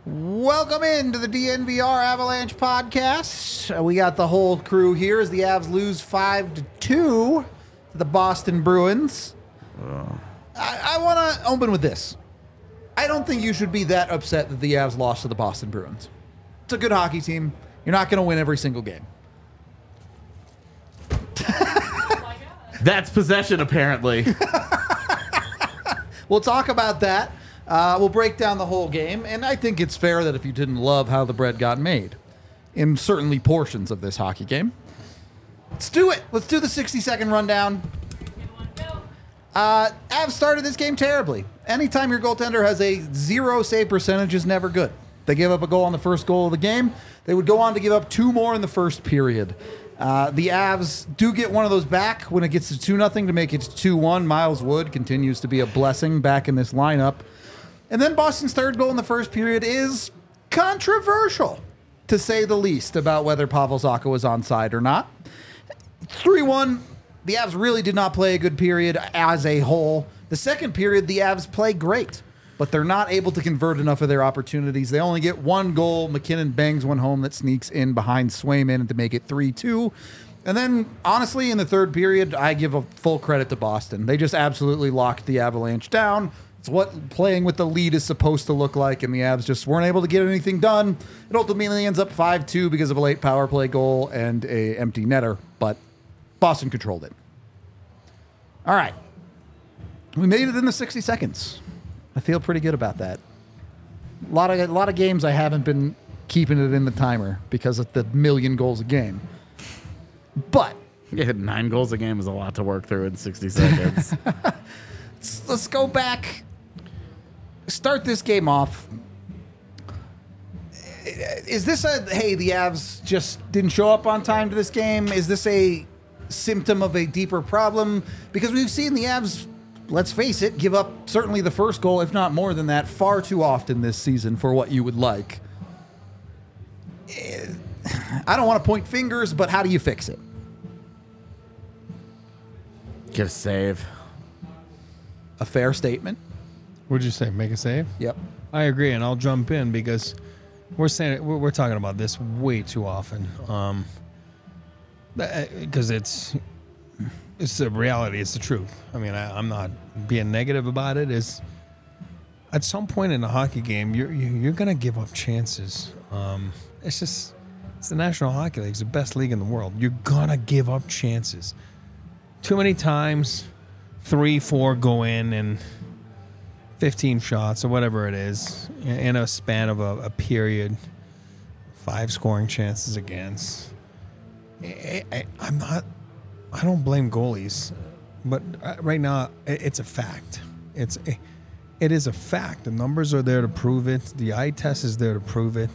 Welcome into the DNVR Avalanche podcast. We got the whole crew here as the Avs lose 5-2 to the Boston Bruins. I want to open with this. I don't think you should be that upset that the Avs lost to the Boston Bruins. It's a good hockey team. You're not going to win every single game. That's possession, apparently. We'll talk about that. We'll break down the whole game, and I think it's fair that if you didn't love how the bread got made, in certainly portions of this hockey game, let's do it. Let's do the 60-second rundown. Avs started this game terribly. Anytime your goaltender has a 0 save percentage is never good. They gave up a goal on the first goal of the game. They would go on to give up 2 more in the first period. The Avs do get one of those back when it gets to 2-0 to make it 2-1. Miles Wood continues to be a blessing back in this lineup. And then Boston's third goal in the first period is controversial, to say the least, about whether Pavel Zacha was onside or not. 3-1, the Avs really did not play a good period as a whole. The second period, the Avs play great, but they're not able to convert enough of their opportunities. They only get 1 goal. McKinnon bangs one home that sneaks in behind Swayman to make it 3-2. And then, honestly, in the third period, I give a full credit to Boston. They just absolutely locked the Avalanche down. It's what playing with the lead is supposed to look like, and the Avs just weren't able to get anything done. It ultimately ends up 5-2 because of a late power play goal and a empty netter, but Boston controlled it. All right. We made it in the 60 seconds. I feel pretty good about that. A lot of games I haven't been keeping it in the timer because of the million goals a game. But Yeah, 9 goals a game is a lot to work through in 60 seconds. let's go back. Start this game off. Is this hey, the Avs just didn't show up on time to this game? Is this a symptom of a deeper problem? Because we've seen the Avs, let's face it, give up certainly the first goal, if not more than that, far too often this season for what you would like. I don't want to point fingers, but how do you fix it? Get a save. A fair statement. What'd you say? Make a save? Yep. I agree, and I'll jump in because we're talking about this way too often. Because it's the reality. It's the truth. I mean, I'm not being negative about it. Is at some point in a hockey game, you're gonna give up chances. It's the National Hockey League. It's the best league in the world. You're gonna give up chances. Too many times, 3-4 go in and 15 shots or whatever it is in a span of a period, 5 scoring chances against. I don't blame goalies, but right now it's a fact. It is a fact. The numbers are there to prove it. The eye test is there to prove it.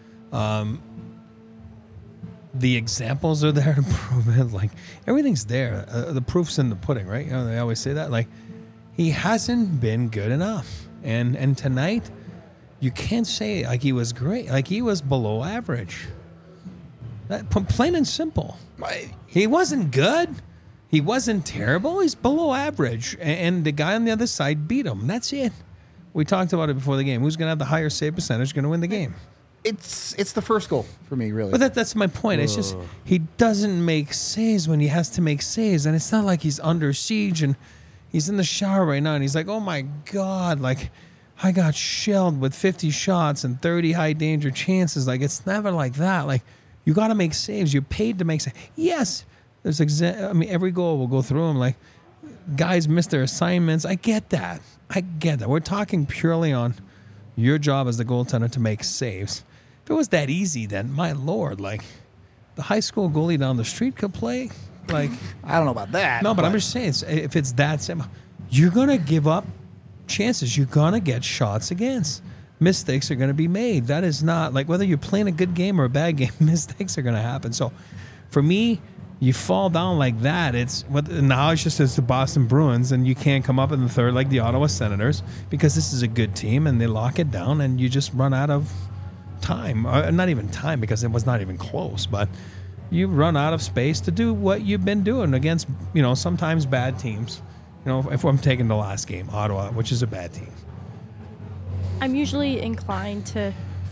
The examples are there to prove it. Like, everything's there. The proof's in the pudding, right? You know, they always say that. Like, he hasn't been good enough. And tonight, you can't say like he was great. Like, he was below average. Plain and simple. He wasn't good. He wasn't terrible. He's below average. And the guy on the other side beat him. That's it. We talked about it before the game. Who's going to have the higher save percentage going to win the game? It's the first goal for me, really. But that's my point. It's just he doesn't make saves when he has to make saves. And it's not like he's under siege and he's in the shower right now and he's like, oh, my God, like, I got shelled with 50 shots and 30 high danger chances. Like, it's never like that. Like, you got to make saves. You're paid to make saves. Yes, there's every goal will go through them. Like, guys miss their assignments. I get that. We're talking purely on your job as the goaltender to make saves. If it was that easy, then my Lord, like, the high school goalie down the street could play. Like, I don't know about that. No, but I'm just saying, if it's that simple, you're gonna give up chances. You're gonna get shots against. Mistakes are gonna be made. That is not like whether you're playing a good game or a bad game. Mistakes are gonna happen. So, for me, you fall down like that. Now it's just the Boston Bruins, and you can't come up in the third like the Ottawa Senators because this is a good team, and they lock it down, and you just run out of time. Not even time because it was not even close, but you run out of space to do what you've been doing against, sometimes bad teams. If I'm taking the last game, Ottawa, which is a bad team. I'm usually inclined to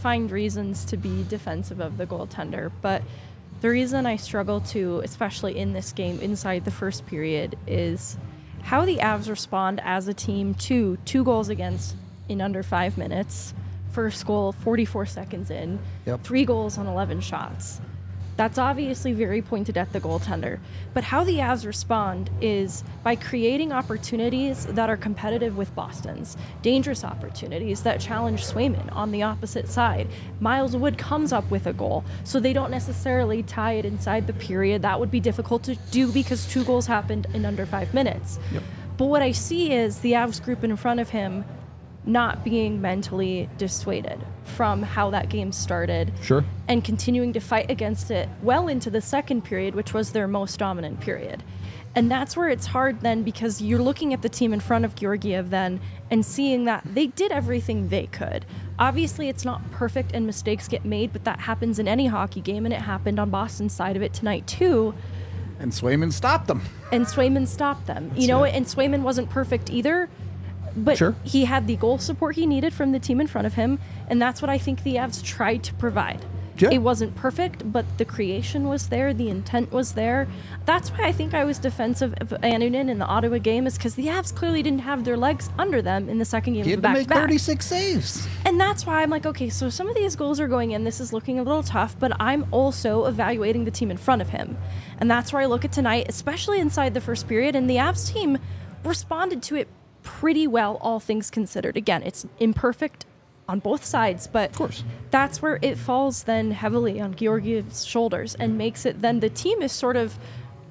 find reasons to be defensive of the goaltender, but the reason I struggle to, especially in this game inside the first period, is how the Avs respond as a team to 2 goals against in under 5 minutes. First goal, 44 seconds in. Yep. 3 goals on 11 shots. That's obviously very pointed at the goaltender. But how the Avs respond is by creating opportunities that are competitive with Boston's. Dangerous opportunities that challenge Swayman on the opposite side. Miles Wood comes up with a goal, so they don't necessarily tie it inside the period. That would be difficult to do because 2 goals happened in under 5 minutes. Yep. But what I see is the Avs group in front of him not being mentally dissuaded from how that game started. Sure. And continuing to fight against it well into the second period, which was their most dominant period. And that's where it's hard then, because you're looking at the team in front of Georgiev then and seeing that they did everything they could. Obviously, it's not perfect and mistakes get made, but that happens in any hockey game, and it happened on Boston's side of it tonight too. And Swayman stopped them. And Swayman stopped them. And Swayman wasn't perfect either. But Sure. he had the goal support he needed from the team in front of him, and that's what I think the Avs tried to provide. Yeah. It wasn't perfect, but the creation was there, the intent was there. That's why I think I was defensive of Annunen in the Ottawa game, is because the Avs clearly didn't have their legs under them in the second game He of had the to make back-to-back. 36 saves. And that's why I'm like, okay, so some of these goals are going in. This is looking a little tough, but I'm also evaluating the team in front of him. And that's where I look at tonight, especially inside the first period, and the Avs team responded to it pretty well, all things considered. Again, it's imperfect on both sides, but Of course. that's where it falls then heavily on Georgiev's shoulders and makes it then the team is sort of,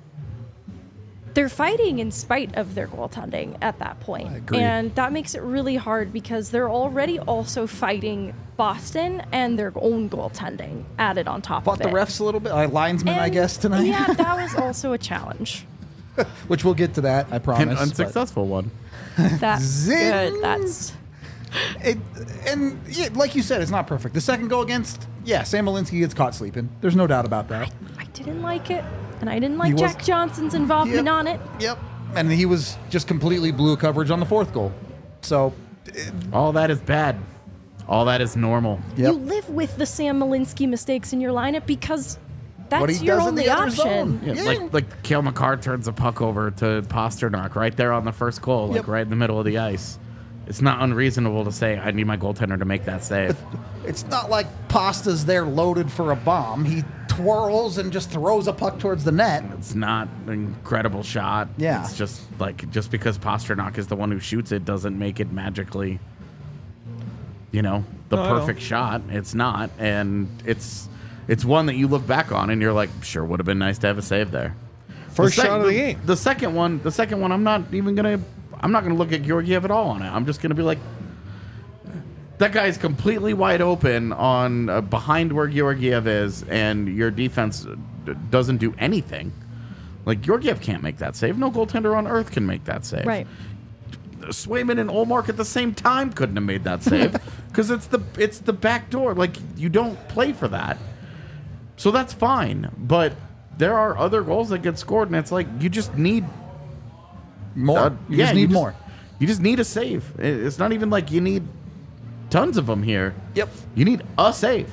they're fighting in spite of their goaltending at that point. I agree. And that makes it really hard because they're already also fighting Boston and their own goaltending added on top Fought of the it. refs a little bit. Linesman, I And, guess, tonight. Yeah, that was also a challenge. Which we'll get to that, I promise. An but unsuccessful one. That's Zing! good. That's like you said, it's not perfect. The second goal against, Sam Malinsky gets caught sleeping. There's no doubt about that. I didn't like it, and I didn't like He was- Jack Johnson's involvement Yep. on it. Yep. And he was just completely blue coverage on the 4th goal. So, All that is bad. All that is normal. yep. You live with the Sam Malinsky mistakes in your lineup because What that's he your does in only the other option. zone. Yeah, Yeah. like Cale Makar turns a puck over to Pasternak right there on the first goal, like Yep. right in the middle of the ice. It's not unreasonable to say I need my goaltender to make that save. It's not like Pasta's there loaded for a bomb. He twirls and just throws a puck towards the net. It's not an incredible shot. Yeah. It's just just because Pasternak is the one who shoots it doesn't make it magically, the No, I know. perfect shot. It's not, and it's one that you look back on and you're like, sure, would have been nice to have a save there. First shot of the game. The second one, I'm not gonna look at Georgiev at all on it. I'm just gonna be like, that guy's completely wide open on behind where Georgiev is, and your defense doesn't do anything. Like, Georgiev can't make that save. No goaltender on earth can make that save. Right. Swayman and Olmark at the same time couldn't have made that save because it's the back door. Like, you don't play for that, so that's fine. But there are other goals that get scored, and it's like you just need More. You just need more. You just need a save. It's not even like you need tons of them here. Yep. You need a save.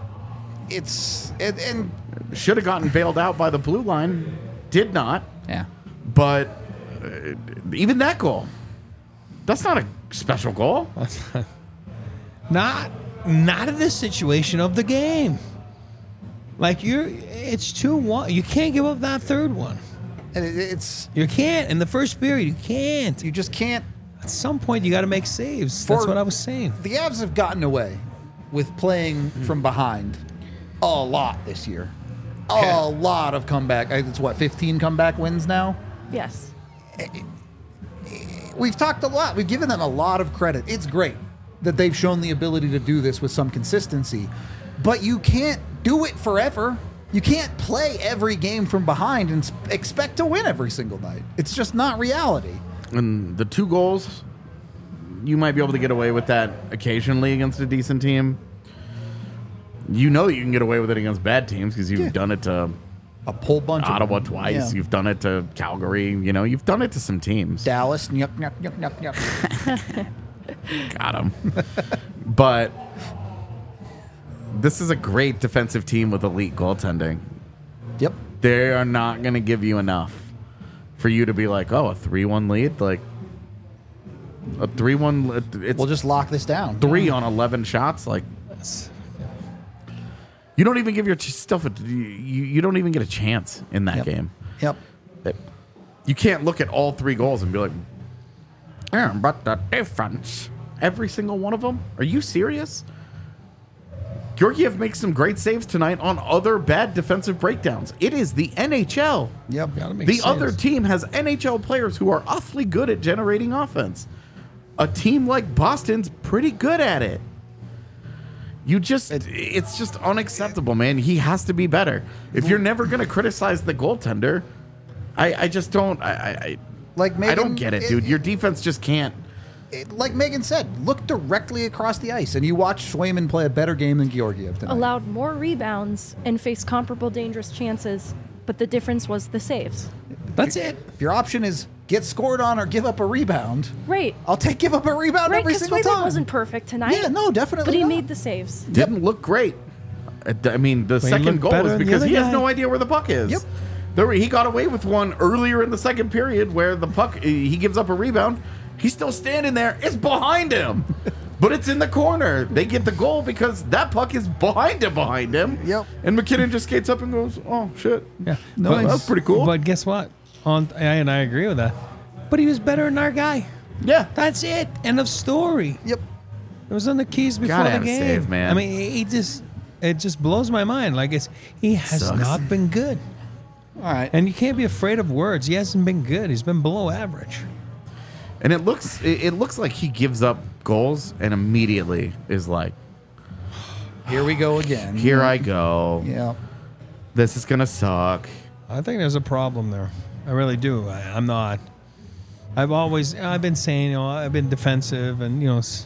And Should have gotten bailed out by the blue line. Did not. yeah. But even that goal, that's not a special goal. Not in this situation of the game. Like it's 2-1. You can't give up that third one. And it's You can't in the first period. You can't. you just can't. At some point, you got to make saves. That's For- what I was saying. The Avs have gotten away with playing from behind a lot this year. A lot of comeback. It's 15 comeback wins now. Yes. We've talked a lot. We've given them a lot of credit. It's great that they've shown the ability to do this with some consistency, but you can't do it forever. You can't play every game from behind and expect to win every single night. It's just not reality. And the 2 goals, you might be able to get away with that occasionally against a decent team. You know you can get away with it against bad teams because you've done it to A whole bunch Ottawa of them. twice. Yeah. You've done it to Calgary. You've done it to some teams. Dallas. Yuck, yuck, yuck, yuck, yuck. Got him. But this is a great defensive team with elite goaltending. Yep. They are not going to give you enough for you to be like, oh, a 3-1 lead? Like, a 3-1, it's We'll just lock this down. 3 on 11 shots? Like, you don't even give your stuff, you don't even get a chance in that game. Yep. You can't look at all 3 goals and be like, yeah, but the difference. Every single one of them? Are you serious? Georgiev makes some great saves tonight on other bad defensive breakdowns. It is the NHL. Yep. Gotta make The saves. other team has NHL players who are awfully good at generating offense. A team like Boston's pretty good at it. It's just unacceptable, man. He has to be better. If you're never going to criticize the goaltender, I just don't. Like Megan, I don't get it, dude. Your defense just can't. Like Megan said, look directly across the ice, and you watch Swayman play a better game than Georgiev tonight. Allowed more rebounds and faced comparable dangerous chances, but the difference was the saves. That's it. If your option is get scored on or give up a rebound, Right. I'll give up a rebound Right, every because single time. wasn't perfect tonight. Yeah, no, definitely But he not. made the saves. Didn't look great. I mean, the he second looked goal better is than the because other he has guy. no idea where the puck is. Yep. He got away with one earlier in the second period where the puck, he gives up a rebound. He's still standing there. It's behind him. But it's in the corner. They get the goal because that puck is behind him. Yep. And McKinnon just skates up and goes, oh, shit. Yeah. Nice. Well, that's pretty cool. But guess what? And I agree with that. But he was better than our guy. Yeah. That's it. End of story. Yep. It was on the keys before Gotta the have a game. save, man. I mean, it just blows my mind. Like he has Sucks. not been good. All right. And you can't be afraid of words. He hasn't been good. He's been below average. And it looks like he gives up goals and immediately is like, Here we go again. here I go. Yeah. This is going to suck. I think there's a problem there. I really do. I'm not. I've been saying, I've been defensive and,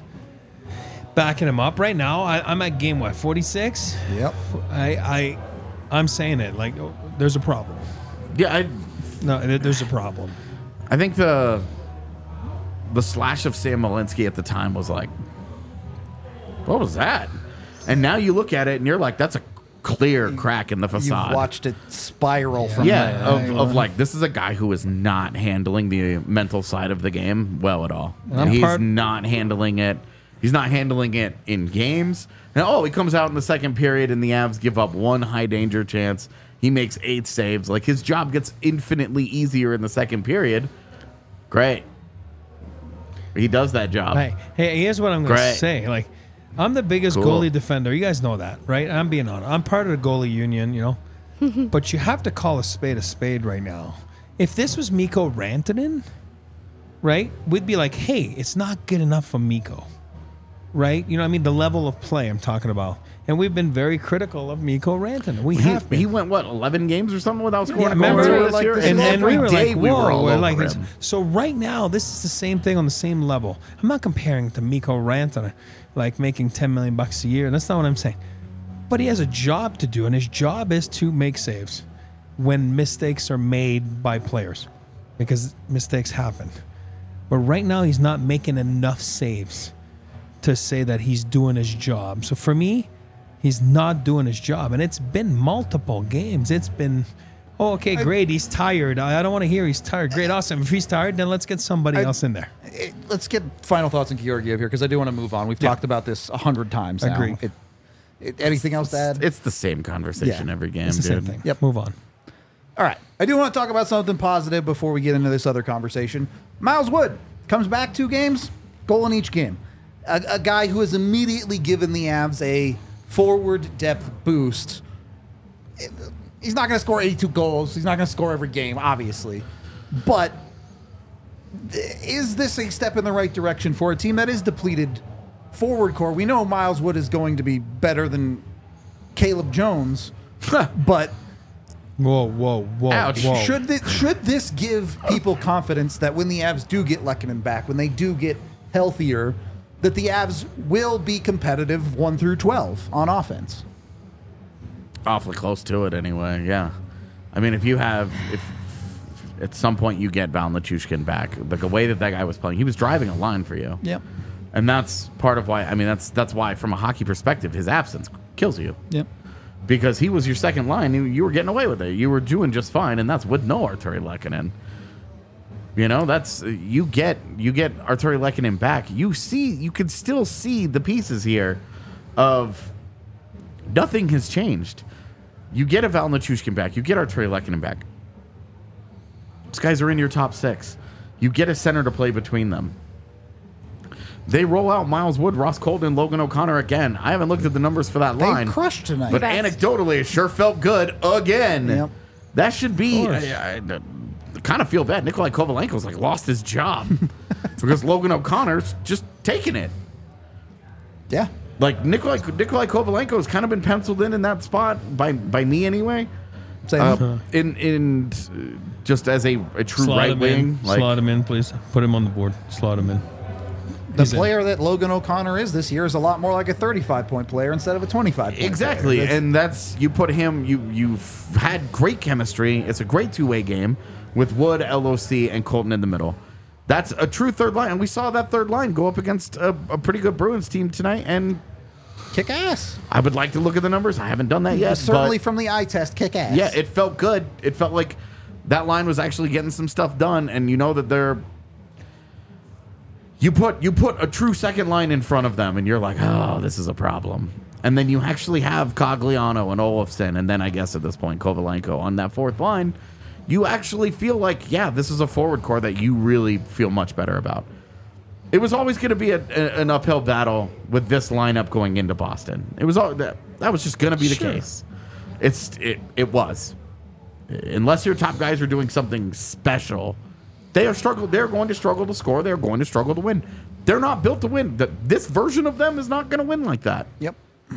backing him up. Right now, I'm at game, 46? Yep. I'm saying it. Like, there's a problem. Yeah, There's a problem. I think the slash of Sam Malinsky at the time was like, what was that? And now you look at it and you're like, that's a clear crack in the facade. You've watched it spiral from Yeah, there. of like, this is a guy who is not handling the mental side of the game well at all. He's not handling it. He's not handling it in games. And he comes out in the second period and the Avs give up one high danger chance. He makes 8 saves. Like, his job gets infinitely easier in the second period. Great. He does that job. Hey, here's what I'm going to Great. say. Like, I'm the biggest Cool. goalie defender. You guys know that, right? I'm being honest. I'm part of the goalie union, But you have to call a spade right now. If this was Mikko Rantanen, right, we'd be like, hey, it's not good enough for Mikko, right? You know what I mean? The level of play I'm talking about. And we've been very critical of Mikko Rantanen. We have been. He went, 11 games or something without scoring a goal remember, earlier this like, year? this And is every we were day like, we were whoa, all we're over like him. this. So right now, this is the same thing on the same level. I'm not comparing it to Mikko Rantanen, like making $10 million a year. That's not what I'm saying. But he has a job to do, and his job is to make saves when mistakes are made by players, because mistakes happen. But right now, he's not making enough saves to say that he's doing his job. So for me, he's not doing his job. And it's been multiple games. It's been, okay, great, he's tired. I don't want to hear he's tired. Great, awesome. If he's tired, then let's get somebody else in there. Let's get final thoughts on Georgiev here because I do want to move on. We've talked about this 100 times now. Agree. Anything else to add? It's the same conversation Yeah, every game, It's the dude. same thing. Yep. Move on. All right. I do want to talk about something positive before we get into this other conversation. Miles Wood comes back 2 games, goal in each game. A guy who has immediately given the Avs a forward depth boost. He's not going to score 82 goals. He's not going to score every game, obviously. But is this a step in the right direction for a team that is depleted forward core? We know Miles Wood is going to be better than Caleb Jones, but Whoa. Ouch. Whoa. should this give people confidence that when the Avs do get Lehkonen back, when they do get healthier, that the Avs will be competitive 1 through 12 on offense? Awfully close to it anyway, yeah. I mean, if at some point you get Val Nichushkin back, the way that guy was playing, he was driving a line for you. Yep. And that's part of why, that's why from a hockey perspective, his absence kills you. Yep. Because he was your second line. You were getting away with it. You were doing just fine, and that's with no Arturi Lehkonen. You know, that's you get Arturi Lehkonen back. You can still see the pieces here of nothing has changed. You get a Val Nichushkin back. You get Arturi Lehkonen back. These guys are in your top 6. You get a center to play between them. They roll out Miles Wood, Ross Colton, Logan O'Connor again. I haven't looked at the numbers for that They line. crushed tonight. But Best. anecdotally, it sure felt good again. Yep. That should be. course. I kind of feel bad. Nikolai Kovalenko's like lost his job because Logan O'Connor's just taking it. Yeah. Like Nikolai Kovalenko's kind of been penciled in that spot by me anyway. Same. In just as a true Slot right him wing. in. Slot him in, please. Put him on the board. Slot him in. The He's in. player that Logan O'Connor is this year is a lot more like a 35-point player instead of a 25-point Exactly, player. and that's you put him. You've had great chemistry. It's a great two-way game with Wood, LOC, and Colton in the middle. That's a true third line, and we saw that third line go up against a pretty good Bruins team tonight. And Kick ass. I would like to look at the numbers. I haven't done that yet. Certainly but from the eye test, kick ass. yeah, it felt good. It felt like that line was actually getting some stuff done, and you know that they're. You put a true second line in front of them, and you're like, oh, this is a problem. And then you actually have Cogliano and Olofsson, and then I guess at this point Kovalenko on that fourth line. You actually feel like, yeah, this is a forward core that you really feel much better about. It was always going to be an uphill battle with this lineup going into Boston. It was all that was just going to be the case. It was, unless your top guys are doing something special. They're going to struggle to score. They're going to struggle to win. They're not built to win. This version of them is not going to win like that. Yep.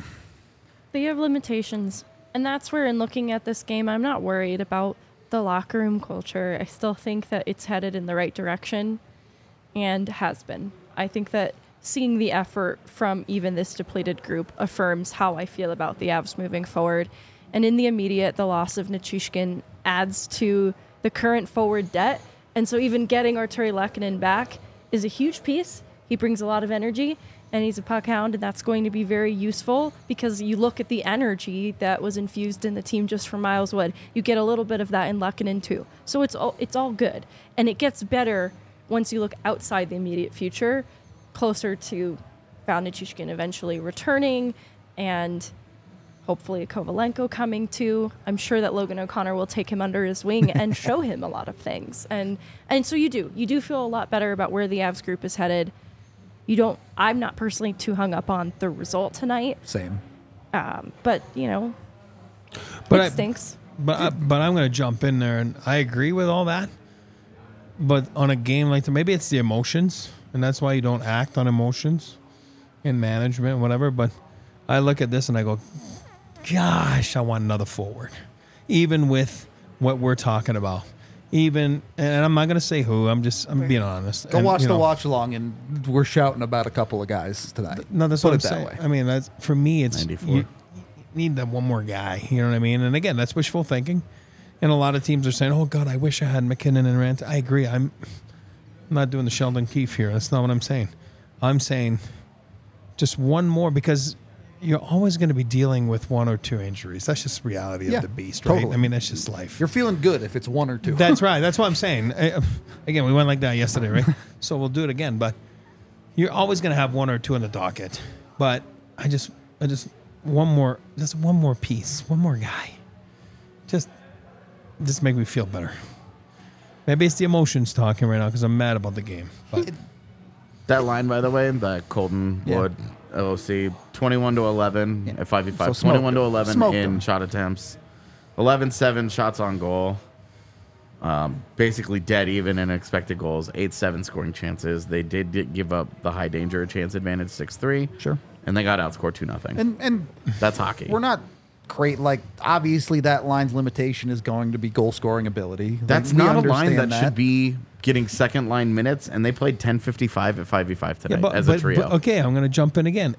They have limitations. And that's where, in looking at this game, I'm not worried about the locker room culture. I still think that it's headed in the right direction and has been. I think that seeing the effort from even this depleted group affirms how I feel about the Avs moving forward. And in the immediate, the loss of Nichushkin adds to the current forward debt. And so even getting Arturi Lehkonen back is a huge piece. He brings a lot of energy, and he's a puck hound, and that's going to be very useful because you look at the energy that was infused in the team just from Miles Wood. You get a little bit of that in Lehkonen too. So it's all good. And it gets better once you look outside the immediate future, closer to Val Nichushkin eventually returning and hopefully Kovalenko coming too. I'm sure that Logan O'Connor will take him under his wing and show him a lot of things. And so you do feel a lot better about where the Avs group is headed. I'm not personally too hung up on the result tonight. Same. But it stinks. But I'm going to jump in there, and I agree with all that. But on a game like that, maybe it's the emotions, and that's why you don't act on emotions in management, whatever. But I look at this and I go, gosh, I want another forward. Even with what we're talking about. And I'm not going to say who. I'm being honest. Go And, watch you the know, watch along, and we're shouting about a couple of guys tonight. No, that's Put what I'm it that saying. way. I mean, that's for me. It's 94. you need that one more guy. You know what I mean? And again, that's wishful thinking. And a lot of teams are saying, "Oh God, I wish I had McKinnon and Rant." I agree. I'm not doing the Sheldon Keefe here. That's not what I'm saying. I'm saying just one more because you're always going to be dealing with one or two injuries. That's just reality Yeah, of the beast, right? totally. I mean, that's just life. You're feeling good if it's one or two. That's right. That's what I'm saying. Again, we went like that yesterday, right? So we'll do it again. But you're always going to have one or two on the docket. But I just one more piece, one more guy. Just make me feel better. Maybe it's the emotions talking right now because I'm mad about the game. But That line, by the way, that Colton Yeah. Wood LOC 21-11 Yeah. at 5v5, So smoked 21-11 them. Smoked in them. shot attempts, 11-7 shots on goal. Basically dead even in expected goals, 8-7 scoring chances. They did give up the high danger chance advantage 6-3. Sure. And they got outscored 2-0. And That's hockey. we're not great. Like, obviously, that line's limitation is going to be goal scoring ability. That's We not a line understand that should be getting second line minutes, and they played 10:55 at 5v5 today as a trio. But, okay, I'm going to jump in again.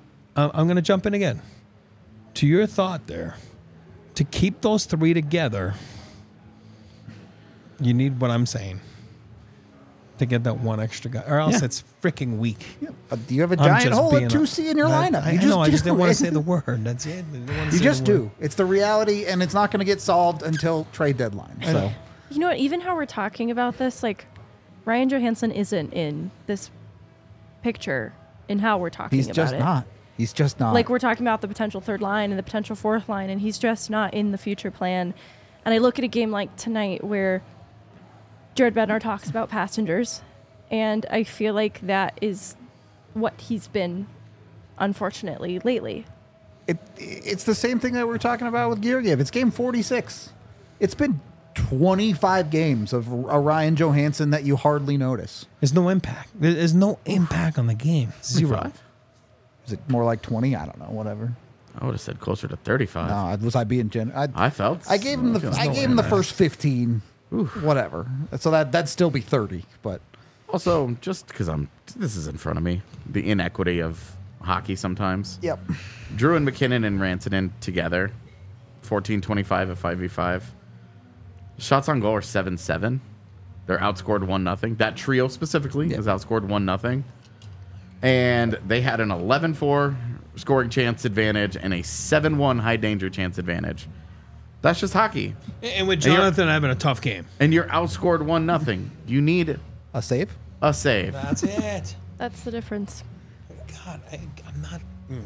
To your thought there, to keep those three together, you need what I'm saying. to get that one extra guy, or else Yeah. it's freaking weak. You have a I'm giant just hole being at 2C in your lineup. I know. I just didn't want to say the word. That's it. I didn't wanna You say just the word. do. It's the reality, and it's not going to get solved until trade deadline. So You know what? Even how we're talking about this, like Ryan Johansson isn't in this picture in how we're talking he's about just it. not. He's just not. Like we're talking about the potential third line and the potential fourth line, and he's just not in the future plan. And I look at a game like tonight where Jared Bednar talks about passengers, and I feel like that is what he's been, unfortunately, lately. It's the same thing that we were talking about with Georgiev. It's game 46. It's been 25 games of a Ryan Johansson that you hardly notice. There's no impact. There's no impact on the game. Zero. 35? Is it more like 20? I don't know. Whatever. I would have said closer to 35. No, was I being generous? I felt. I gave him the first 15. Whatever. So that'd still be 30. But Also, just because this is in front of me, the inequity of hockey sometimes. yep. Drew and McKinnon and Rantanen together, 14-25 at 5v5. Shots on goal are 7-7. They're outscored 1-0. That trio specifically is outscored 1-0. And they had an 11-4 scoring chance advantage and a 7-1 high danger chance advantage. That's just hockey. And with you're- Jonathan having a tough game. And you're outscored 1-0. You need A save? a save. That's it. That's the difference. God, I'm not.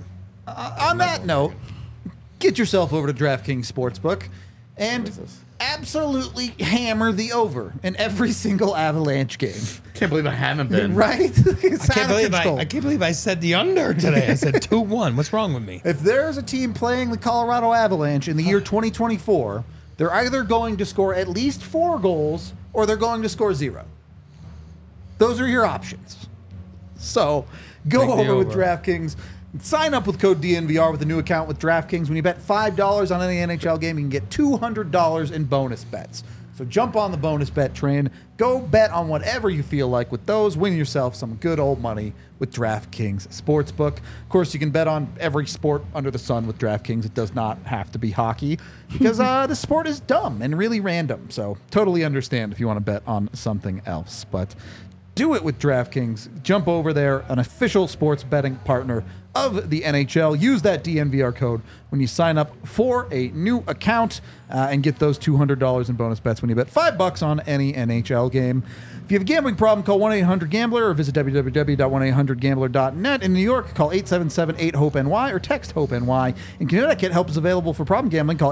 On that note, get yourself over to DraftKings Sportsbook and absolutely hammer the over in every single Avalanche game. Can't believe I haven't been. Right? It's I can't out of control. believe I said the under today. I said 2-1. What's wrong with me? If there's a team playing the Colorado Avalanche in the year 2024, they're either going to score at least 4 goals or they're going to score 0. Those are your options. So go Take the over with over. DraftKings. Sign up with code DNVR with a new account with DraftKings. When you bet $5 on any NHL game, you can get $200 in bonus bets. So jump on the bonus bet train. Go bet on whatever you feel like with those. Win yourself some good old money with DraftKings Sportsbook. Of course, you can bet on every sport under the sun with DraftKings. It does not have to be hockey because the sport is dumb and really random. So totally understand if you want to bet on something else. But do it with DraftKings. Jump over there, an official sports betting partner of the NHL. Use that DNVR code when you sign up for a new account and get those $200 in bonus bets when you bet $5 on any NHL game. If you have a gambling problem, call 1-800-GAMBLER or visit www.1800gambler.net. In New York, call 877-8-HOPE-NY or text HOPE-NY. In Connecticut, help is available for problem gambling. Call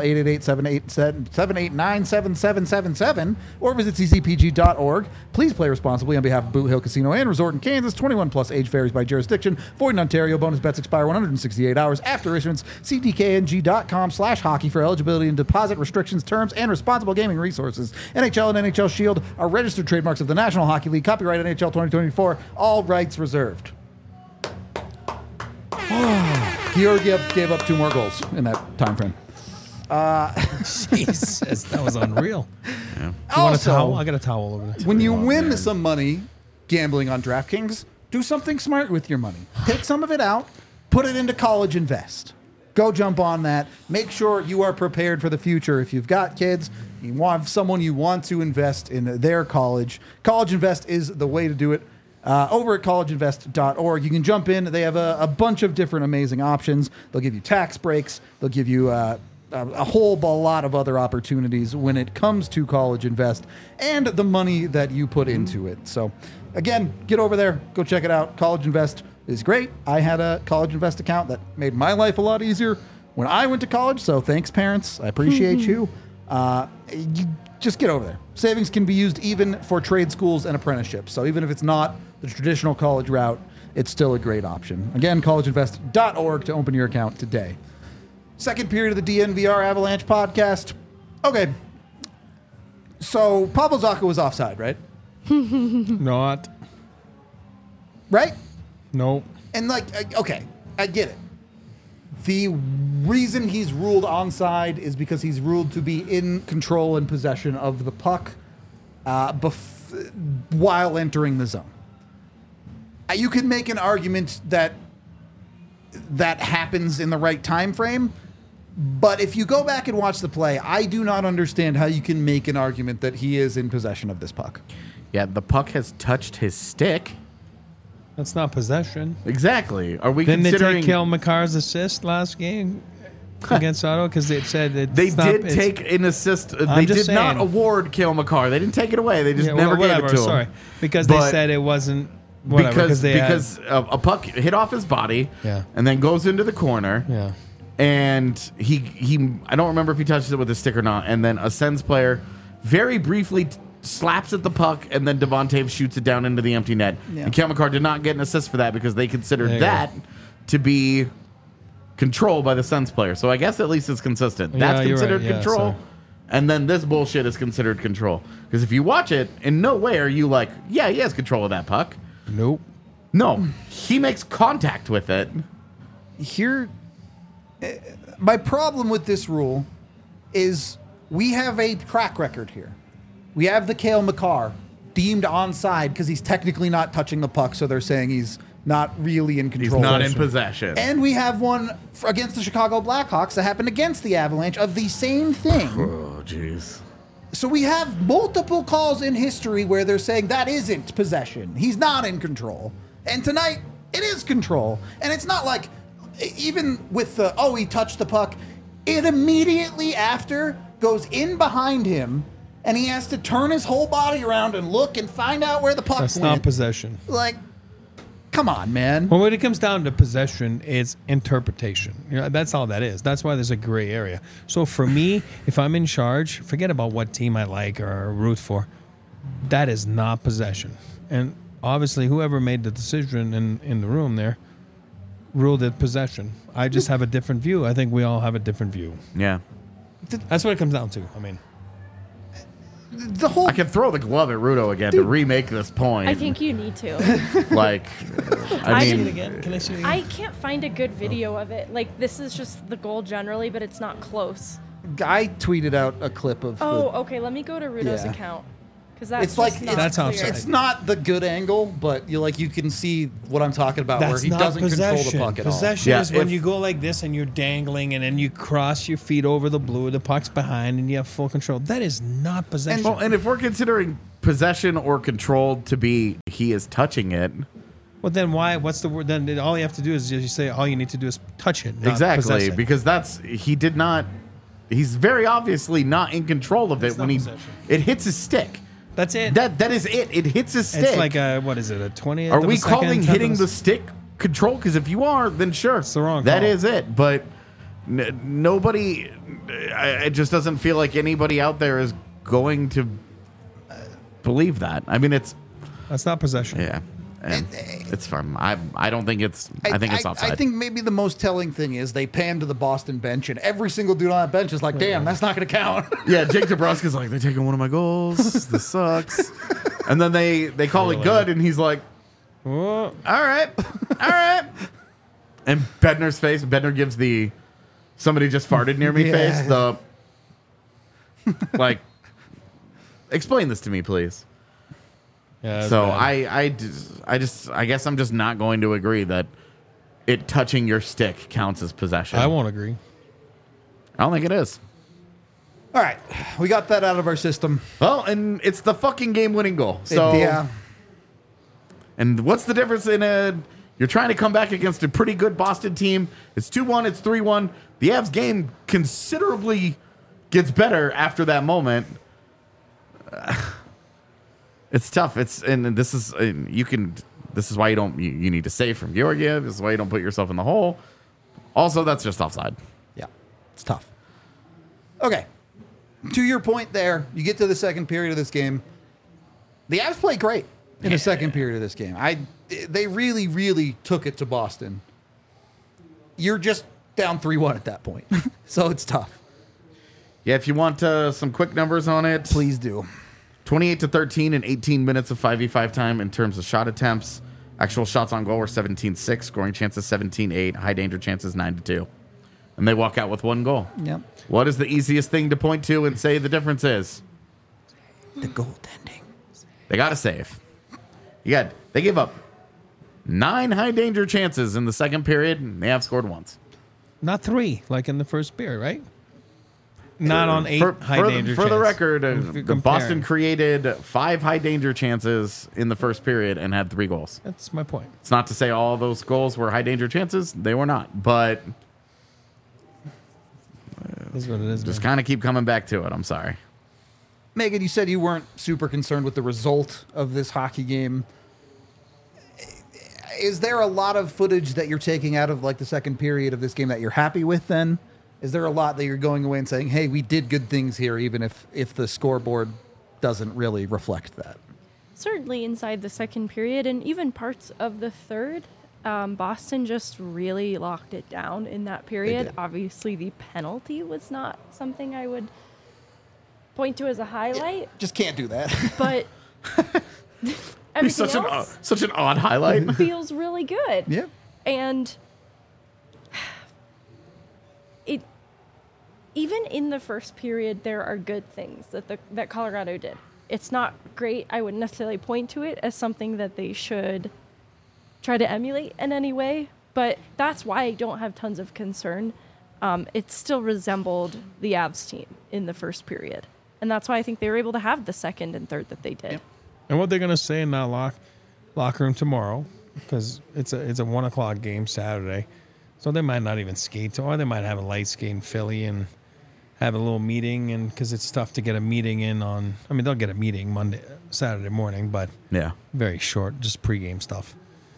888-789-7777 or visit ccpg.org. Please play responsibly on behalf of Boot Hill Casino and Resort in Kansas. 21 plus age varies by jurisdiction. Void in Ontario. Bonus bets expire 168 hours after issuance. See dkng.com/hockey for eligibility and deposit restrictions, terms, and responsible gaming resources. NHL and NHL Shield are registered trademarks of the National Hockey League. Copyright NHL 2024. All rights reserved. Georgiev gave up 2 more goals in that time frame. Jesus, that was unreal. Yeah. You want a towel? Also, I got a towel over there. when you Oh, win man. some money gambling on DraftKings, do something smart with your money. Take some of it out, put it into College Invest. Go jump on that. Make sure you are prepared for the future. If you've got kids, you want someone you want to invest in their college, College Invest is the way to do it. Over at collegeinvest.org, you can jump in. They have a bunch of different amazing options. They'll give you tax breaks. They'll give you a whole lot of other opportunities when it comes to College Invest and the money that you put into it. So, again, get over there. Go check it out. College Invest is great. I had a College Invest account that made my life a lot easier when I went to college. So thanks, parents. I appreciate you. You just get over there. Savings can be used even for trade schools and apprenticeships. So even if it's not the traditional college route, it's still a great option. Again, collegeinvest.org to open your account today. Second period of the DNVR Avalanche podcast. Okay. So Pavel Zacha was offside, right? Not. Right? Nope. And okay, I get it. The reason he's ruled onside is because he's ruled to be in control and possession of the puck while entering the zone. You could make an argument that happens in the right time frame, but if you go back and watch the play, I do not understand how you can make an argument that he is in possession of this puck. Yeah, the puck has touched his stick. That's not possession. Exactly. Are we Didn't they considering... take Cale Makar's assist last game against Ottawa? Because they said They did take an assist. They did not award Cale Makar. They didn't take it away. They just never gave it to him. Sorry, because they said it wasn't. Whatever, because a puck hit off his body, Yeah. and then goes into the corner. Yeah. And he I don't remember if he touches it with his stick or not. And then a Sens player very briefly slaps at the puck, and then Devon shoots it down into the empty net. Yeah. And Cale Makar did not get an assist for that because they considered There you that to be control by the Sens player. So I guess at least it's consistent. Yeah, That's you're considered right. Yeah, control. sorry. And then this bullshit is considered control. Because if you watch it, in no way are you like, yeah, he has control of that puck. Nope. No, he makes contact with it. Here, my problem with this rule is we have a track record here. We have the Cale Makar deemed onside because he's technically not touching the puck, so they're saying he's not really in He's control. not in possession. And we have one against the Chicago Blackhawks that happened against the Avalanche of the same thing. Oh, jeez. So we have multiple calls in history where they're saying that isn't possession. He's not in control. And tonight, it is control. And it's not like, even with the, oh, he touched the puck, it immediately after goes in behind him, and he has to turn his whole body around and look and find out where the puck That's went. not possession. Like, come on, man. Well, when it comes down to possession, it's interpretation. You know, that's all that is. That's why there's a gray area. So for me, if I'm in charge, forget about what team I like or root for. That is not possession. And obviously, whoever made the decision in the room there ruled it possession. I just have a different view. I think we all have a different view. Yeah. That's what it comes down to. I mean, The whole I can throw the glove at Rudo again to remake this point. I think you need to. Like, I I mean, didn't again. Can I see it again? I can't find a good video of it. Like, this is just the goal generally, but it's not close. guy tweeted out a clip of. Oh, okay. Let me go to Rudo's Yeah. account. Because that's It's like just not That's clear. outside. It's not the good angle, but you can see what I'm talking about, where That's he not doesn't possession. control the puck at all. Possession Yeah, is when if- you go like this and you're dangling, and then you cross your feet over the blue, the puck's behind, and you have full control. That is not possession. well, and if we're considering possession or control to be he is touching it, Well, then why? What's the word? Then all you have to do is you say all you need to do is touch it. Not exactly, possess it. because he did not. He's very obviously not in control of it It's when not possession. it hits his stick. That's it. That is it. It hits his stick. It's like a what is it? A 20th? Are of we a second, calling 10th hitting of the a- stick control? Because if you are, then sure, It's the wrong That call. is it. But nobody. It just doesn't feel like anybody out there is going to believe that. I mean, it's That's not possession. yeah, and it's fun. I don't think it's. I think it's offside. I think maybe the most telling thing is they pan to the Boston bench, and every single dude on that bench is like, "Damn, that's not going to count." Yeah, Jake DeBruska's like, they're taking one of my goals. This sucks. And then they call it good, and he's like, Oh, all right. And Bednar gives the somebody just farted near me Yeah. face. The like, explain this to me, please. yeah, that's So bad. I guess I'm just not going to agree that it touching your stick counts as possession. I won't agree. I don't think it is. All right, we got that out of our system. Well, and it's the fucking game-winning goal. So Yeah, And what's the difference in a? You're trying to come back against a pretty good Boston team. It's 2-1. It's 3-1. The Avs game considerably gets better after that moment. It's tough. This is This is why you don't. You need to save from Georgiev. This is why you don't put yourself in the hole. Also, that's just offside. yeah, it's tough. Okay, to your point there, you get to the second period of this game. The Avs play great in the second period of this game. They really, really took it to Boston. You're just down 3-1 at that point, so it's tough. Yeah, if you want some quick numbers on it, Please do. 28-13 in 18 minutes of 5v5 time in terms of shot attempts. Actual shots on goal were 17-6, scoring chances 17-8, high danger chances 9-2. And they walk out with one goal. Yep. What is the easiest thing to point to and say the difference is? The goaltending. They got to save. They gave up 9 high danger chances in the second period, and they have scored once. Not 3, like in the first period, right? not on 8 high danger For the chances. record, Comparing. Boston created 5 high danger chances in the first period and had 3 goals. That's my point. It's not to say all those goals were high danger chances. They were not. But That's what it is. just man. kind of keep coming back to it. I'm sorry. Megan, you said you weren't super concerned with the result of this hockey game. Is there a lot of footage that you're taking out of like the second period of this game that you're happy with then? Is there a lot that you're going away and saying, hey, we did good things here, even if the scoreboard doesn't really reflect that? Certainly inside the second period and even parts of the third, Boston just really locked it down in that period. did. Obviously, the penalty was not something I would point to as a highlight, Just can't do that. but He's everything else such an odd highlight. feels really good. Yeah. And it even in the first period, there are good things that Colorado did. It's not great. I wouldn't necessarily point to it as something that they should try to emulate in any way, but that's why I don't have tons of concern. It still resembled the Avs team in the first period, and that's why I think they were able to have the second and third that they did. Yep. And what they're going to say in that locker room tomorrow, because it's a 1:00 game Saturday, so they might not even skate, or they might have a light skate in Philly and have a little meeting, and because it's tough to get a meeting in on. I mean, they'll get a meeting Saturday morning, but Yeah. very short, just pregame stuff.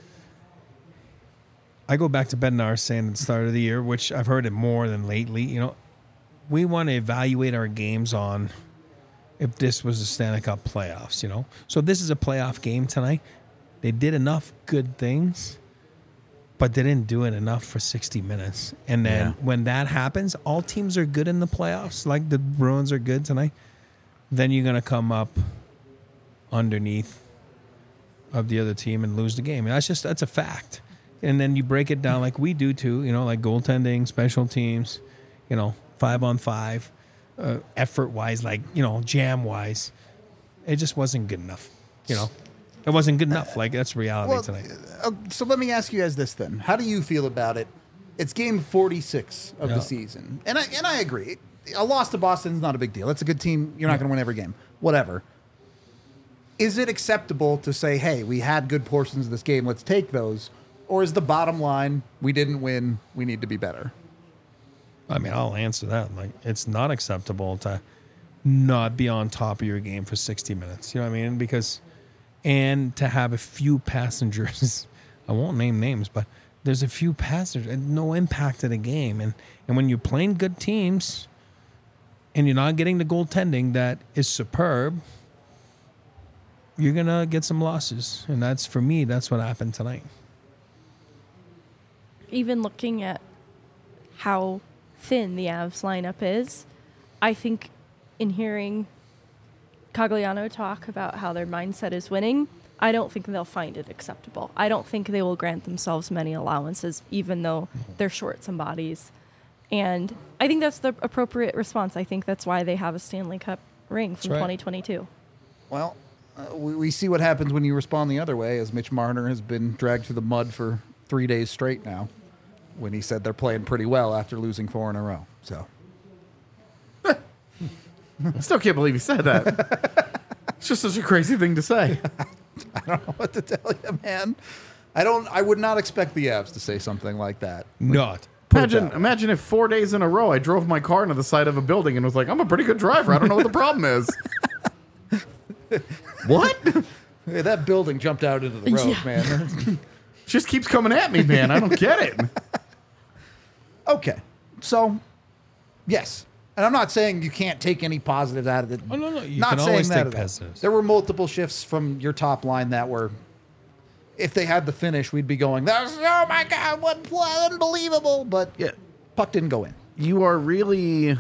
I go back to Bednar saying at the start of the year, which I've heard it more than lately. You know, we want to evaluate our games on if this was the Stanley Cup playoffs, you know. So this is a playoff game tonight. They did enough good things, but they didn't do it enough for 60 minutes. And then when that happens, all teams are good in the playoffs, like the Bruins are good tonight. Then you're going to come up underneath of the other team and lose the game. And that's a fact. And then you break it down like we do too, you know, like goaltending, special teams, you know, 5-on-5. Effort-wise, like, you know, jam-wise, it just wasn't good enough. You know, it wasn't good enough. Like, that's reality tonight. So let me ask you guys this then: how do you feel about it? It's game 46 of the season, and I agree. A loss to Boston is not a big deal. It's a good team. You're not going to win every game. Whatever. Is it acceptable to say, "Hey, we had good portions of this game. Let's take those," or is the bottom line, we didn't win. We need to be better? I mean, I'll answer that. Like, it's not acceptable to not be on top of your game for 60 minutes. You know what I mean? And to have a few passengers, I won't name names, but there's a few passengers and no impact to the game. And when you're playing good teams and you're not getting the goaltending that is superb, you're going to get some losses. And that's, for me, that's what happened tonight. Even looking at how thin the Avs lineup is, I think in hearing Cogliano talk about how their mindset is winning, I don't think they'll find it acceptable. I don't think they will grant themselves many allowances, even though they're short some bodies. And I think that's the appropriate response. I think that's why they have a Stanley Cup ring from right. 2022. Well, we see what happens when you respond the other way, as Mitch Marner has been dragged through the mud for 3 days straight now, when he said they're playing pretty well after losing 4 in a row. So I still can't believe he said that. It's just such a crazy thing to say. I don't know what to tell you, man. I would not expect the Avs to say something like that. Not. Imagine if 4 days in a row I drove my car into the side of a building and was like, I'm a pretty good driver. I don't know what the problem is. What? Hey, that building jumped out into the road, Yeah. man. Just keeps coming at me, man. I don't get it. Okay. So, yes. And I'm not saying you can't take any positives out of it. Oh, no. You Not can saying always that take at all. positives. There were multiple shifts from your top line that were, if they had the finish, we'd be going, oh my God, what play, unbelievable. But Yeah. puck didn't go in. You are really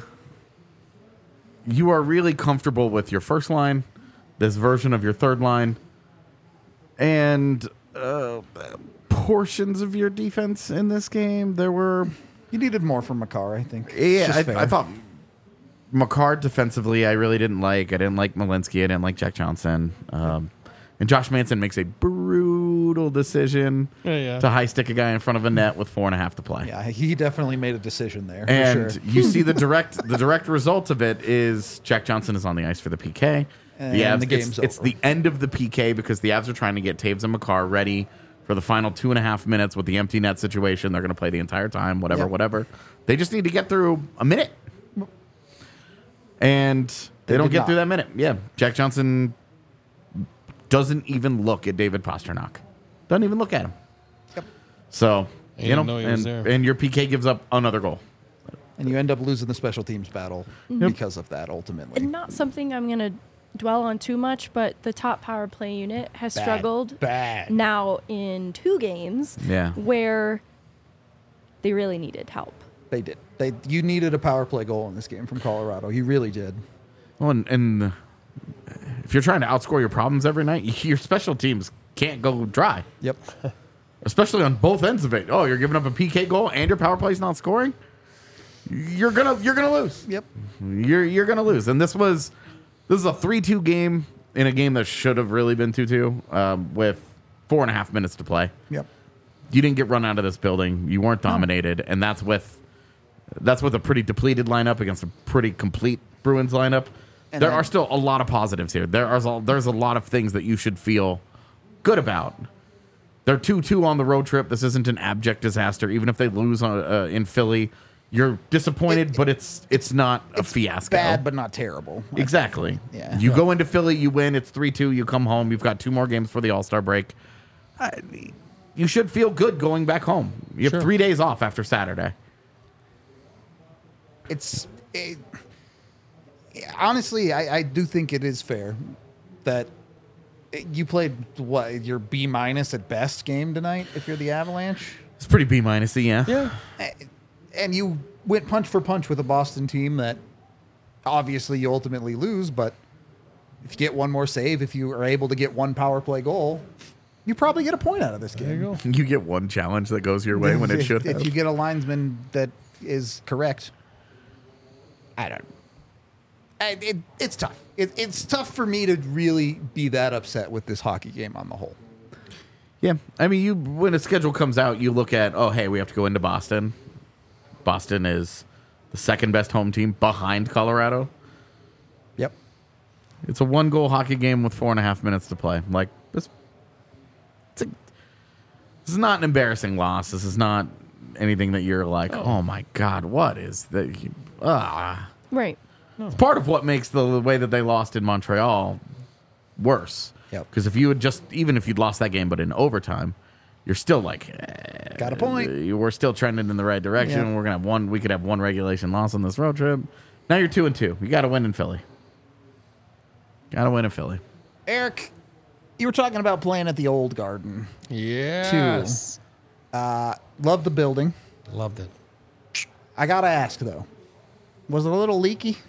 comfortable with your first line, this version of your third line, and portions of your defense in this game. There were... You needed more from Makar, I think. It's Yeah, just fair. I thought Makar defensively, I really didn't like. I didn't like Malinsky. I didn't like Jack Johnson. And Josh Manson makes a brutal brutal decision to high stick a guy in front of a net with 4.5 to play. Yeah, he definitely made a decision there. For And sure. you see the direct result of it is Jack Johnson is on the ice for the PK. And the game's it's over. the end of the PK because the Avs are trying to get Taves and Makar ready for the final 2.5 minutes with the empty net situation. They're going to play the entire time, whatever. They just need to get through a minute. And they don't did get not. through that minute. Yeah, Jack Johnson doesn't even look at David Pasternak. Doesn't even look at him. Yep. So, He didn't know he was there. and your PK gives up another goal. And you end up losing the special teams battle because of that, ultimately. And not something I'm going to dwell on too much, but the top power play unit has struggled Bad. now in 2 games Yeah. where they really needed help. They did. You needed a power play goal in this game from Colorado. You really did. Well, and if you're trying to outscore your problems every night, your special teams can't go dry, Yep. especially on both ends of it. Oh, you're giving up a PK goal and your power play's not scoring. You're gonna lose. Yep. You're gonna lose. And this is a 3-2 game in a game that should have really been 2-2 with 4.5 minutes to play. Yep. You didn't get run out of this building. You weren't dominated, and that's with a pretty depleted lineup against a pretty complete Bruins lineup. And There then- are still a lot of positives here. There's a lot of things that you should feel good about. They're 2-2 on the road trip. This isn't an abject disaster. Even if they lose in Philly, you're disappointed, but it's not a fiasco. Bad, but not terrible. Exactly. Yeah. You go into Philly, you win. It's 3-2. You come home. You've got 2 more games for the All-Star break. You should feel good going back home. You have 3 days off after Saturday. Honestly, I do think it is fair that you played your B- at best game tonight if you're the Avalanche. It's pretty B-y, yeah. Yeah. And you went punch for punch with a Boston team that obviously you ultimately lose, but if you get one more save, if you are able to get one power play goal, you probably get a point out of this game. There you go. You get one challenge that goes your way when it should have. If you get a linesman that is correct, I don't. It's tough. It's tough for me to really be that upset with this hockey game on the whole. Yeah. I mean, when a schedule comes out, you look at, oh, hey, we have to go into Boston. Boston is the second best home team behind Colorado. Yep. It's a 1-goal hockey game with 4.5 minutes to play. Like, this is not an embarrassing loss. This is not anything that you're like, oh my God, what is that? Right. It's part of what makes the way that they lost in Montreal worse. Yep. Because if you had even if you'd lost that game, but in overtime, you're still like, Got a point. We're still trending in the right direction. Yeah. We're gonna have we could have 1 regulation loss on this road trip. Now you're 2-2. You got to win in Philly. Got to win in Philly. Eric, you were talking about playing at the Old Garden. Yes. Love the building. Loved it. I gotta ask though, was it a little leaky?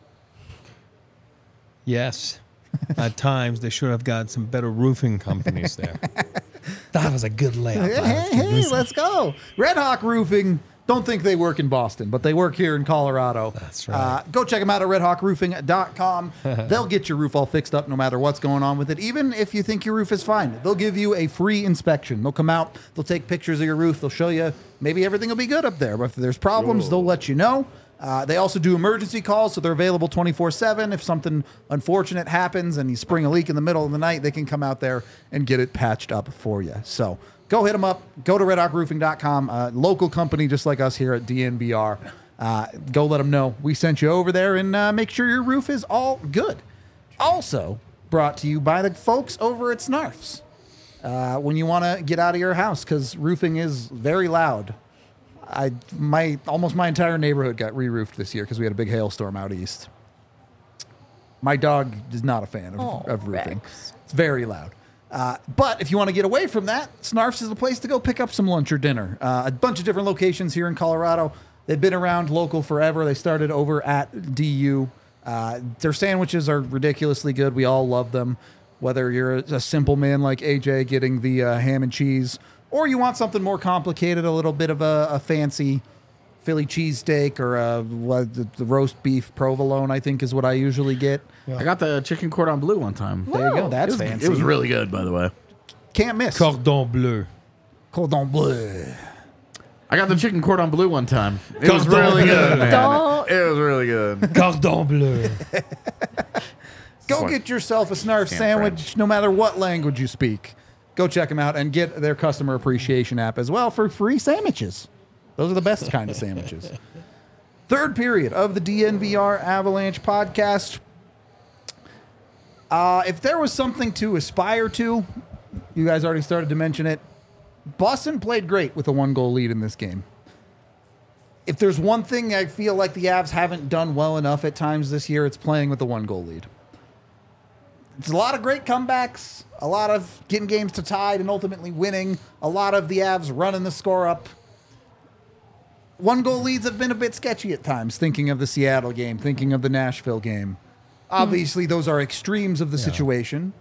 Yes. At times, they should have got some better roofing companies there. That was a good layup. Hey, let's go. Red Hawk Roofing. Don't think they work in Boston, but they work here in Colorado. That's right. Go check them out at redhawkroofing.com. They'll get your roof all fixed up no matter what's going on with it. Even if you think your roof is fine, they'll give you a free inspection. They'll come out, they'll take pictures of your roof, they'll show you maybe everything will be good up there. But if there's problems, they'll let you know. They also do emergency calls, so they're available 24/7. If something unfortunate happens and you spring a leak in the middle of the night, they can come out there and get it patched up for you. So go hit them up. Go to redhawkroofing.com. Local company just like us here at DNBR. Go let them know we sent you over there and make sure your roof is all good. Also brought to you by the folks over at Snarfs. When you want to get out of your house, because roofing is very loud. Almost my entire neighborhood got re-roofed this year because we had a big hailstorm out east. My dog is not a fan of roofing. Rex. It's very loud. But if you want to get away from that, Snarfs is the place to go pick up some lunch or dinner. A bunch of different locations here in Colorado. They've been around local forever. They started over at DU. Their sandwiches are ridiculously good. We all love them. Whether you're a simple man like AJ getting the ham and cheese, or you want something more complicated, a little bit of a fancy Philly cheesesteak or the roast beef provolone, I think is what I usually get. I got the chicken cordon bleu one time. There you go. That's fancy. It was really good, by the way. can't miss. Cordon bleu. Cordon bleu. I got the chicken cordon bleu one time. It was Cordon really bleu. good, man. Don't- It was really good. Cordon bleu. Go What? get yourself a Snarf Damn sandwich, French. no matter what language you speak. Go check them out and get their customer appreciation app as well for free sandwiches. Those are the best kind of sandwiches. Third period of the DNVR Avalanche podcast. If there was something to aspire to, you guys already started to mention it. Boston played great with a 1-goal lead in this game. If there's one thing I feel like the Avs haven't done well enough at times this year, it's playing with a 1-goal lead. It's a lot of great comebacks, a lot of getting games to tied and ultimately winning, a lot of the Avs running the score up. 1-goal leads have been a bit sketchy at times, thinking of the Seattle game, thinking of the Nashville game. Obviously, those are extremes of the situation.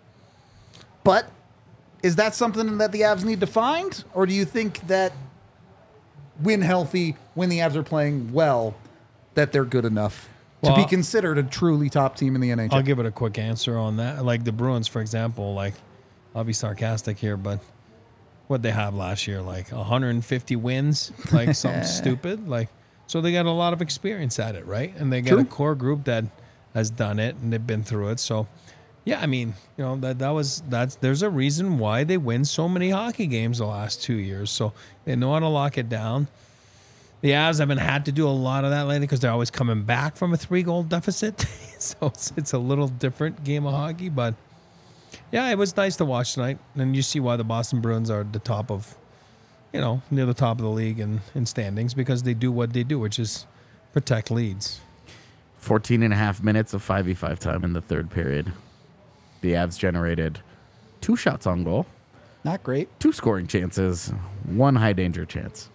But is that something that the Avs need to find? Or do you think that when healthy, when the Avs are playing well, that they're good enough to be Well, considered a truly top team in the NHL? I'll give it a quick answer on that. Like the Bruins, for example, like I'll be sarcastic here, but what they have last year, like 150 wins, like something stupid. Like, so they got a lot of experience at it, right? And they got a True. core group that has done it and they've been through it. So yeah, I mean, you know, there's a reason why they win so many hockey games the last 2 years. So they know how to lock it down. The Avs haven't had to do a lot of that lately because they're always coming back from a 3-goal deficit. So it's a little different game of hockey. But yeah, it was nice to watch tonight. And you see why the Boston Bruins are the top of, you know, near the top of the league in standings because they do what they do, which is protect leads. 14 and a half minutes of 5v5 time in the third period. The Avs generated 2 shots on goal, Not great. 2 scoring chances, 1 high danger chance.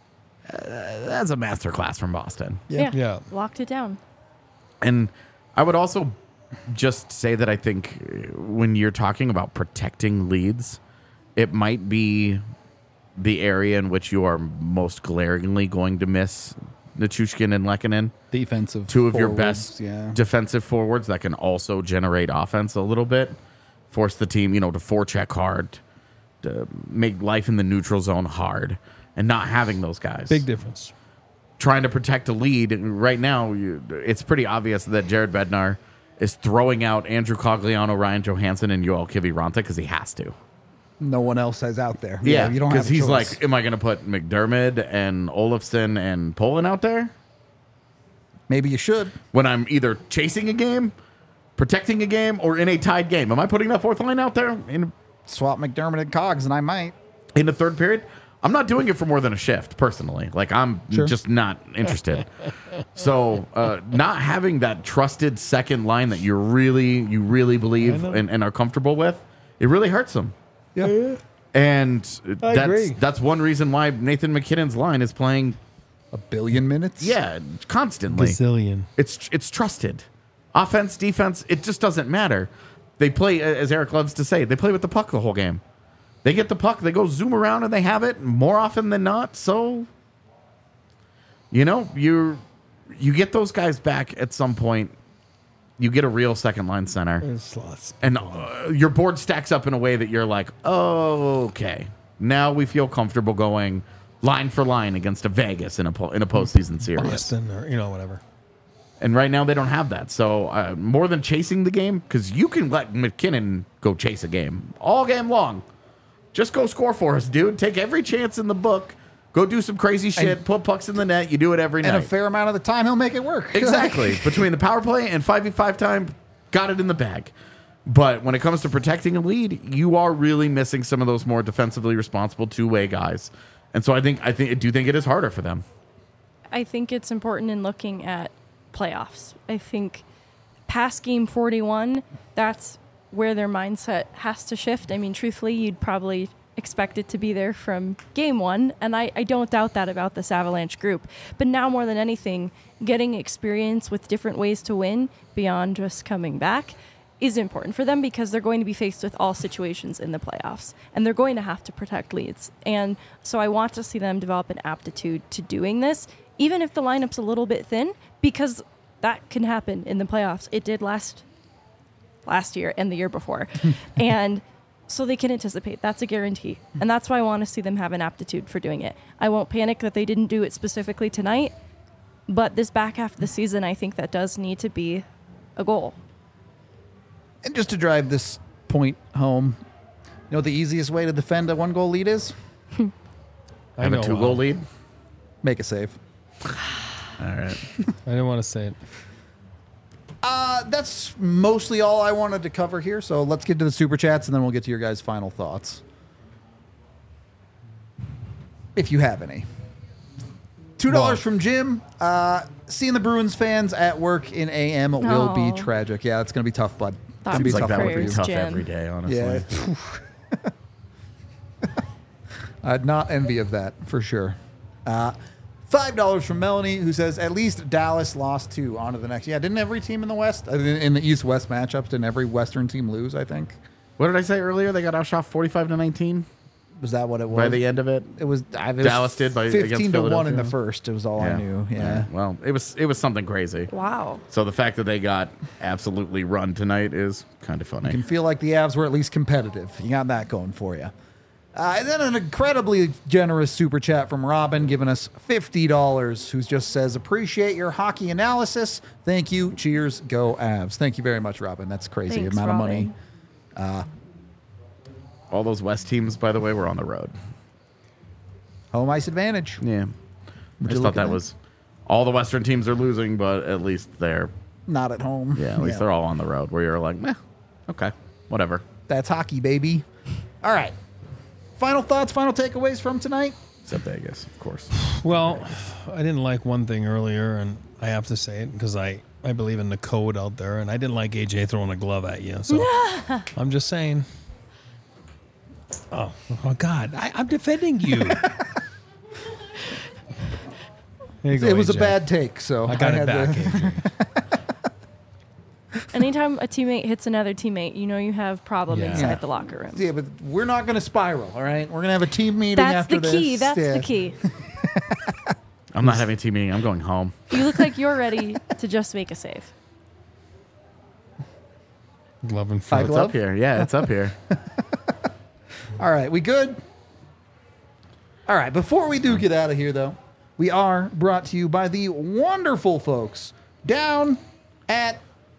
That's a masterclass from Boston. Yeah. Locked it down. And I would also just say that I think when you're talking about protecting leads, it might be the area in which you are most glaringly going to miss Nichushkin and Lehkonen. Defensive. 2 of your forwards, best yeah. defensive forwards that can also generate offense a little bit. Force the team, to forecheck hard, to make life in the neutral zone hard. And not having those guys. Big difference. Trying to protect a lead. Right now, it's pretty obvious that Jared Bednar is throwing out Andrew Cogliano, Ryan Johansson, and Yoel Kiviranta because he has to. No one else is out there. Yeah, you don't have because a he's choice. like, am I going to put McDermott and Olofsson and Poland out there Maybe you should. when I'm either chasing a game, protecting a game, or in a tied game? Am I putting that fourth line out there Swap McDermott and Cogs, and I might. in the third period? I'm not doing it for more than a shift, personally. Like, I'm Sure. just not interested. So, not having that trusted second line that you really believe and are comfortable with, it really hurts them. Yeah. And agree. that's one reason why Nathan McKinnon's line is playing, 1 billion minutes? constantly. Gazillion. It's trusted. Offense, defense, it just doesn't matter. They play, as Eric loves to say, they play with the puck the whole game. They get the puck, they go zoom around, and they have it more often than not. So, you get those guys back at some point. You get a real second line center, and your board stacks up in a way that you're like, oh, okay. Now we feel comfortable going line for line against a Vegas in a postseason series. Boston or, whatever. And right now they don't have that. So more than chasing the game, because you can let McKinnon go chase a game all game long. Just go score for us, dude. Take every chance in the book. Go do some crazy shit. Put pucks in the net. You do it every And night. a fair amount of the time, he'll make it work. Exactly. Between the power play and 5v5 time, got it in the bag. But when it comes to protecting a lead, you are really missing some of those more defensively responsible two-way guys. And so I do think it is harder for them. I think it's important in looking at playoffs. I think past game 41, that's where their mindset has to shift. I mean, truthfully, you'd probably expect it to be there from game 1, and I don't doubt that about this Avalanche group. But now more than anything, getting experience with different ways to win beyond just coming back is important for them because they're going to be faced with all situations in the playoffs, and they're going to have to protect leads. And so I want to see them develop an aptitude to doing this, even if the lineup's a little bit thin, because that can happen in the playoffs. It did last year and the year before. And so they can anticipate. That's a guarantee. And that's why I want to see them have an aptitude for doing it. I won't panic that they didn't do it specifically tonight, but this back half of the season, I think that does need to be a goal. And just to drive this point home, you know what the easiest way to defend a 1-goal lead is? I Have a know, 2-goal lead. Make a save. All right. I didn't want to say it. That's mostly all I wanted to cover here. So let's get to the super chats, and then we'll get to your guys' final thoughts, if you have any. $2 Well- from Jim. Seeing the Bruins fans at work in AM will be Aw. tragic. Yeah, it's going to be tough, bud. It's Thoughts going to be Seems like tough that one would for be you. Prayers, tough Jim. every day, honestly. Yeah. I'd not envy of that for sure. $5 from Melanie, who says, at least Dallas lost 2. On to the next. Yeah, didn't every team in the West, in the East-West matchups, didn't every Western team lose, I think? What did I say earlier? They got outshot 45-19 Was that what it was? by the end of it. It was Dallas did by 15 against to 1 in Philadelphia. the first. It was all I knew. Yeah. Well, it was something crazy. Wow. So the fact that they got absolutely run tonight is kind of funny. You can feel like the Avs were at least competitive. You got that going for you. And then an incredibly generous super chat from Robin, giving us $50, who just says, appreciate your hockey analysis. Thank you. Cheers. Go Avs. Thank you very much, Robin. That's crazy Thanks, amount of money. Robin. All those West teams, by the way, were on the road. Home ice advantage. Yeah. I you just look thought at that that? was all the Western teams are losing, but at least they're Not at home. at least they're all on the road. Where you're like, meh, okay, whatever. That's hockey, baby. All right. Final thoughts, final takeaways from tonight? Except Vegas, of course. Well, I didn't like one thing earlier, and I have to say it because I believe in the code out there, and I didn't like AJ throwing a glove at you. So I'm just saying. Oh God, I'm defending you. There you go, It was a AJ. bad take, so I got it had back. to- AJ. Anytime a teammate hits another teammate, you know you have problem Yeah. inside Yeah. the locker room. Yeah, but we're not going to spiral, all right? We're going to have a team meeting That's after the key. this. That's Yeah. the key. I'm not having a team meeting. I'm going home. You look like you're ready to just make a save. Glove and High foot. It's glove? up here. Yeah, it's up here. All right, we good? All right, before we do get out of here, though, we are brought to you by the wonderful folks down at,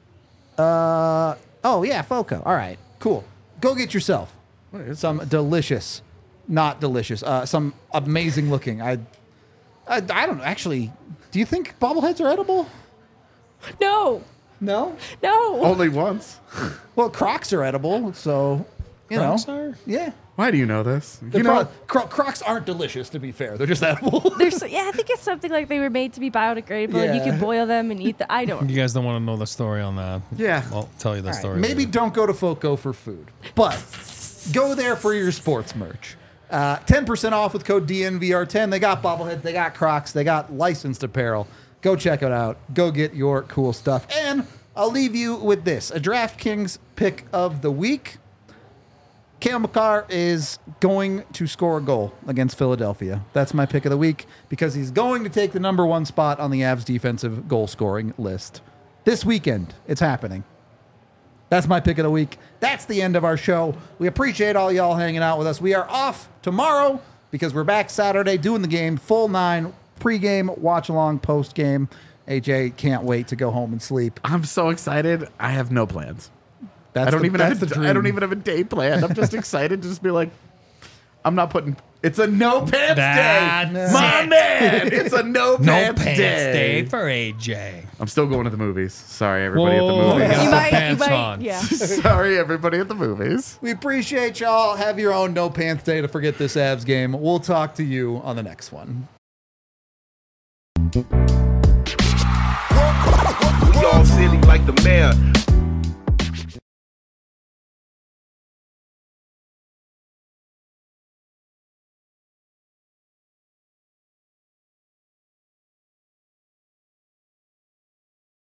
FOCO. All right, cool. Go get yourself some delicious, not delicious, some amazing looking. I don't know. Actually, do you think bobbleheads are edible? No, No. no. Only once. Well, Crocs are edible, so, you Crocs know. are? Yeah. Why do you know this? They're You know, Crocs aren't delicious, to be fair. They're just edible. I think it's something like they were made to be biodegradable and you Yeah. can boil them and eat them. I don't. You guys don't want to know the story on that. Yeah. I'll tell you the All right, story. maybe later. don't go to FOCO for food, but go there for your sports merch. 10% off with code DNVR10. They got bobbleheads, they got Crocs, they got licensed apparel. Go check it out. Go get your cool stuff. And I'll leave you with this. A DraftKings pick of the week. Cale Makar is going to score a goal against Philadelphia. That's my pick of the week because he's going to take the number 1 spot on the Avs defensive goal scoring list. This weekend, it's happening. That's my pick of the week. That's the end of our show. We appreciate all y'all hanging out with us. We are off tomorrow because we're back Saturday doing the game, full 9, pregame, watch along, postgame. AJ can't wait to go home and sleep. I'm so excited. I have no plans. That's I don't even have the I don't dream. even have a day planned. I'm just excited to just be like, I'm not putting. It's a no pants That's day, my man. It's a no no pants, pants day. day for AJ. I'm still going to the movies. Sorry, everybody Whoa. at the You movies. gotta You put might, pants on. yeah. Sorry, everybody at the movies. We appreciate y'all. Have your own no pants day to forget this Avs game. We'll talk to you on the next one. We all silly like the mayor.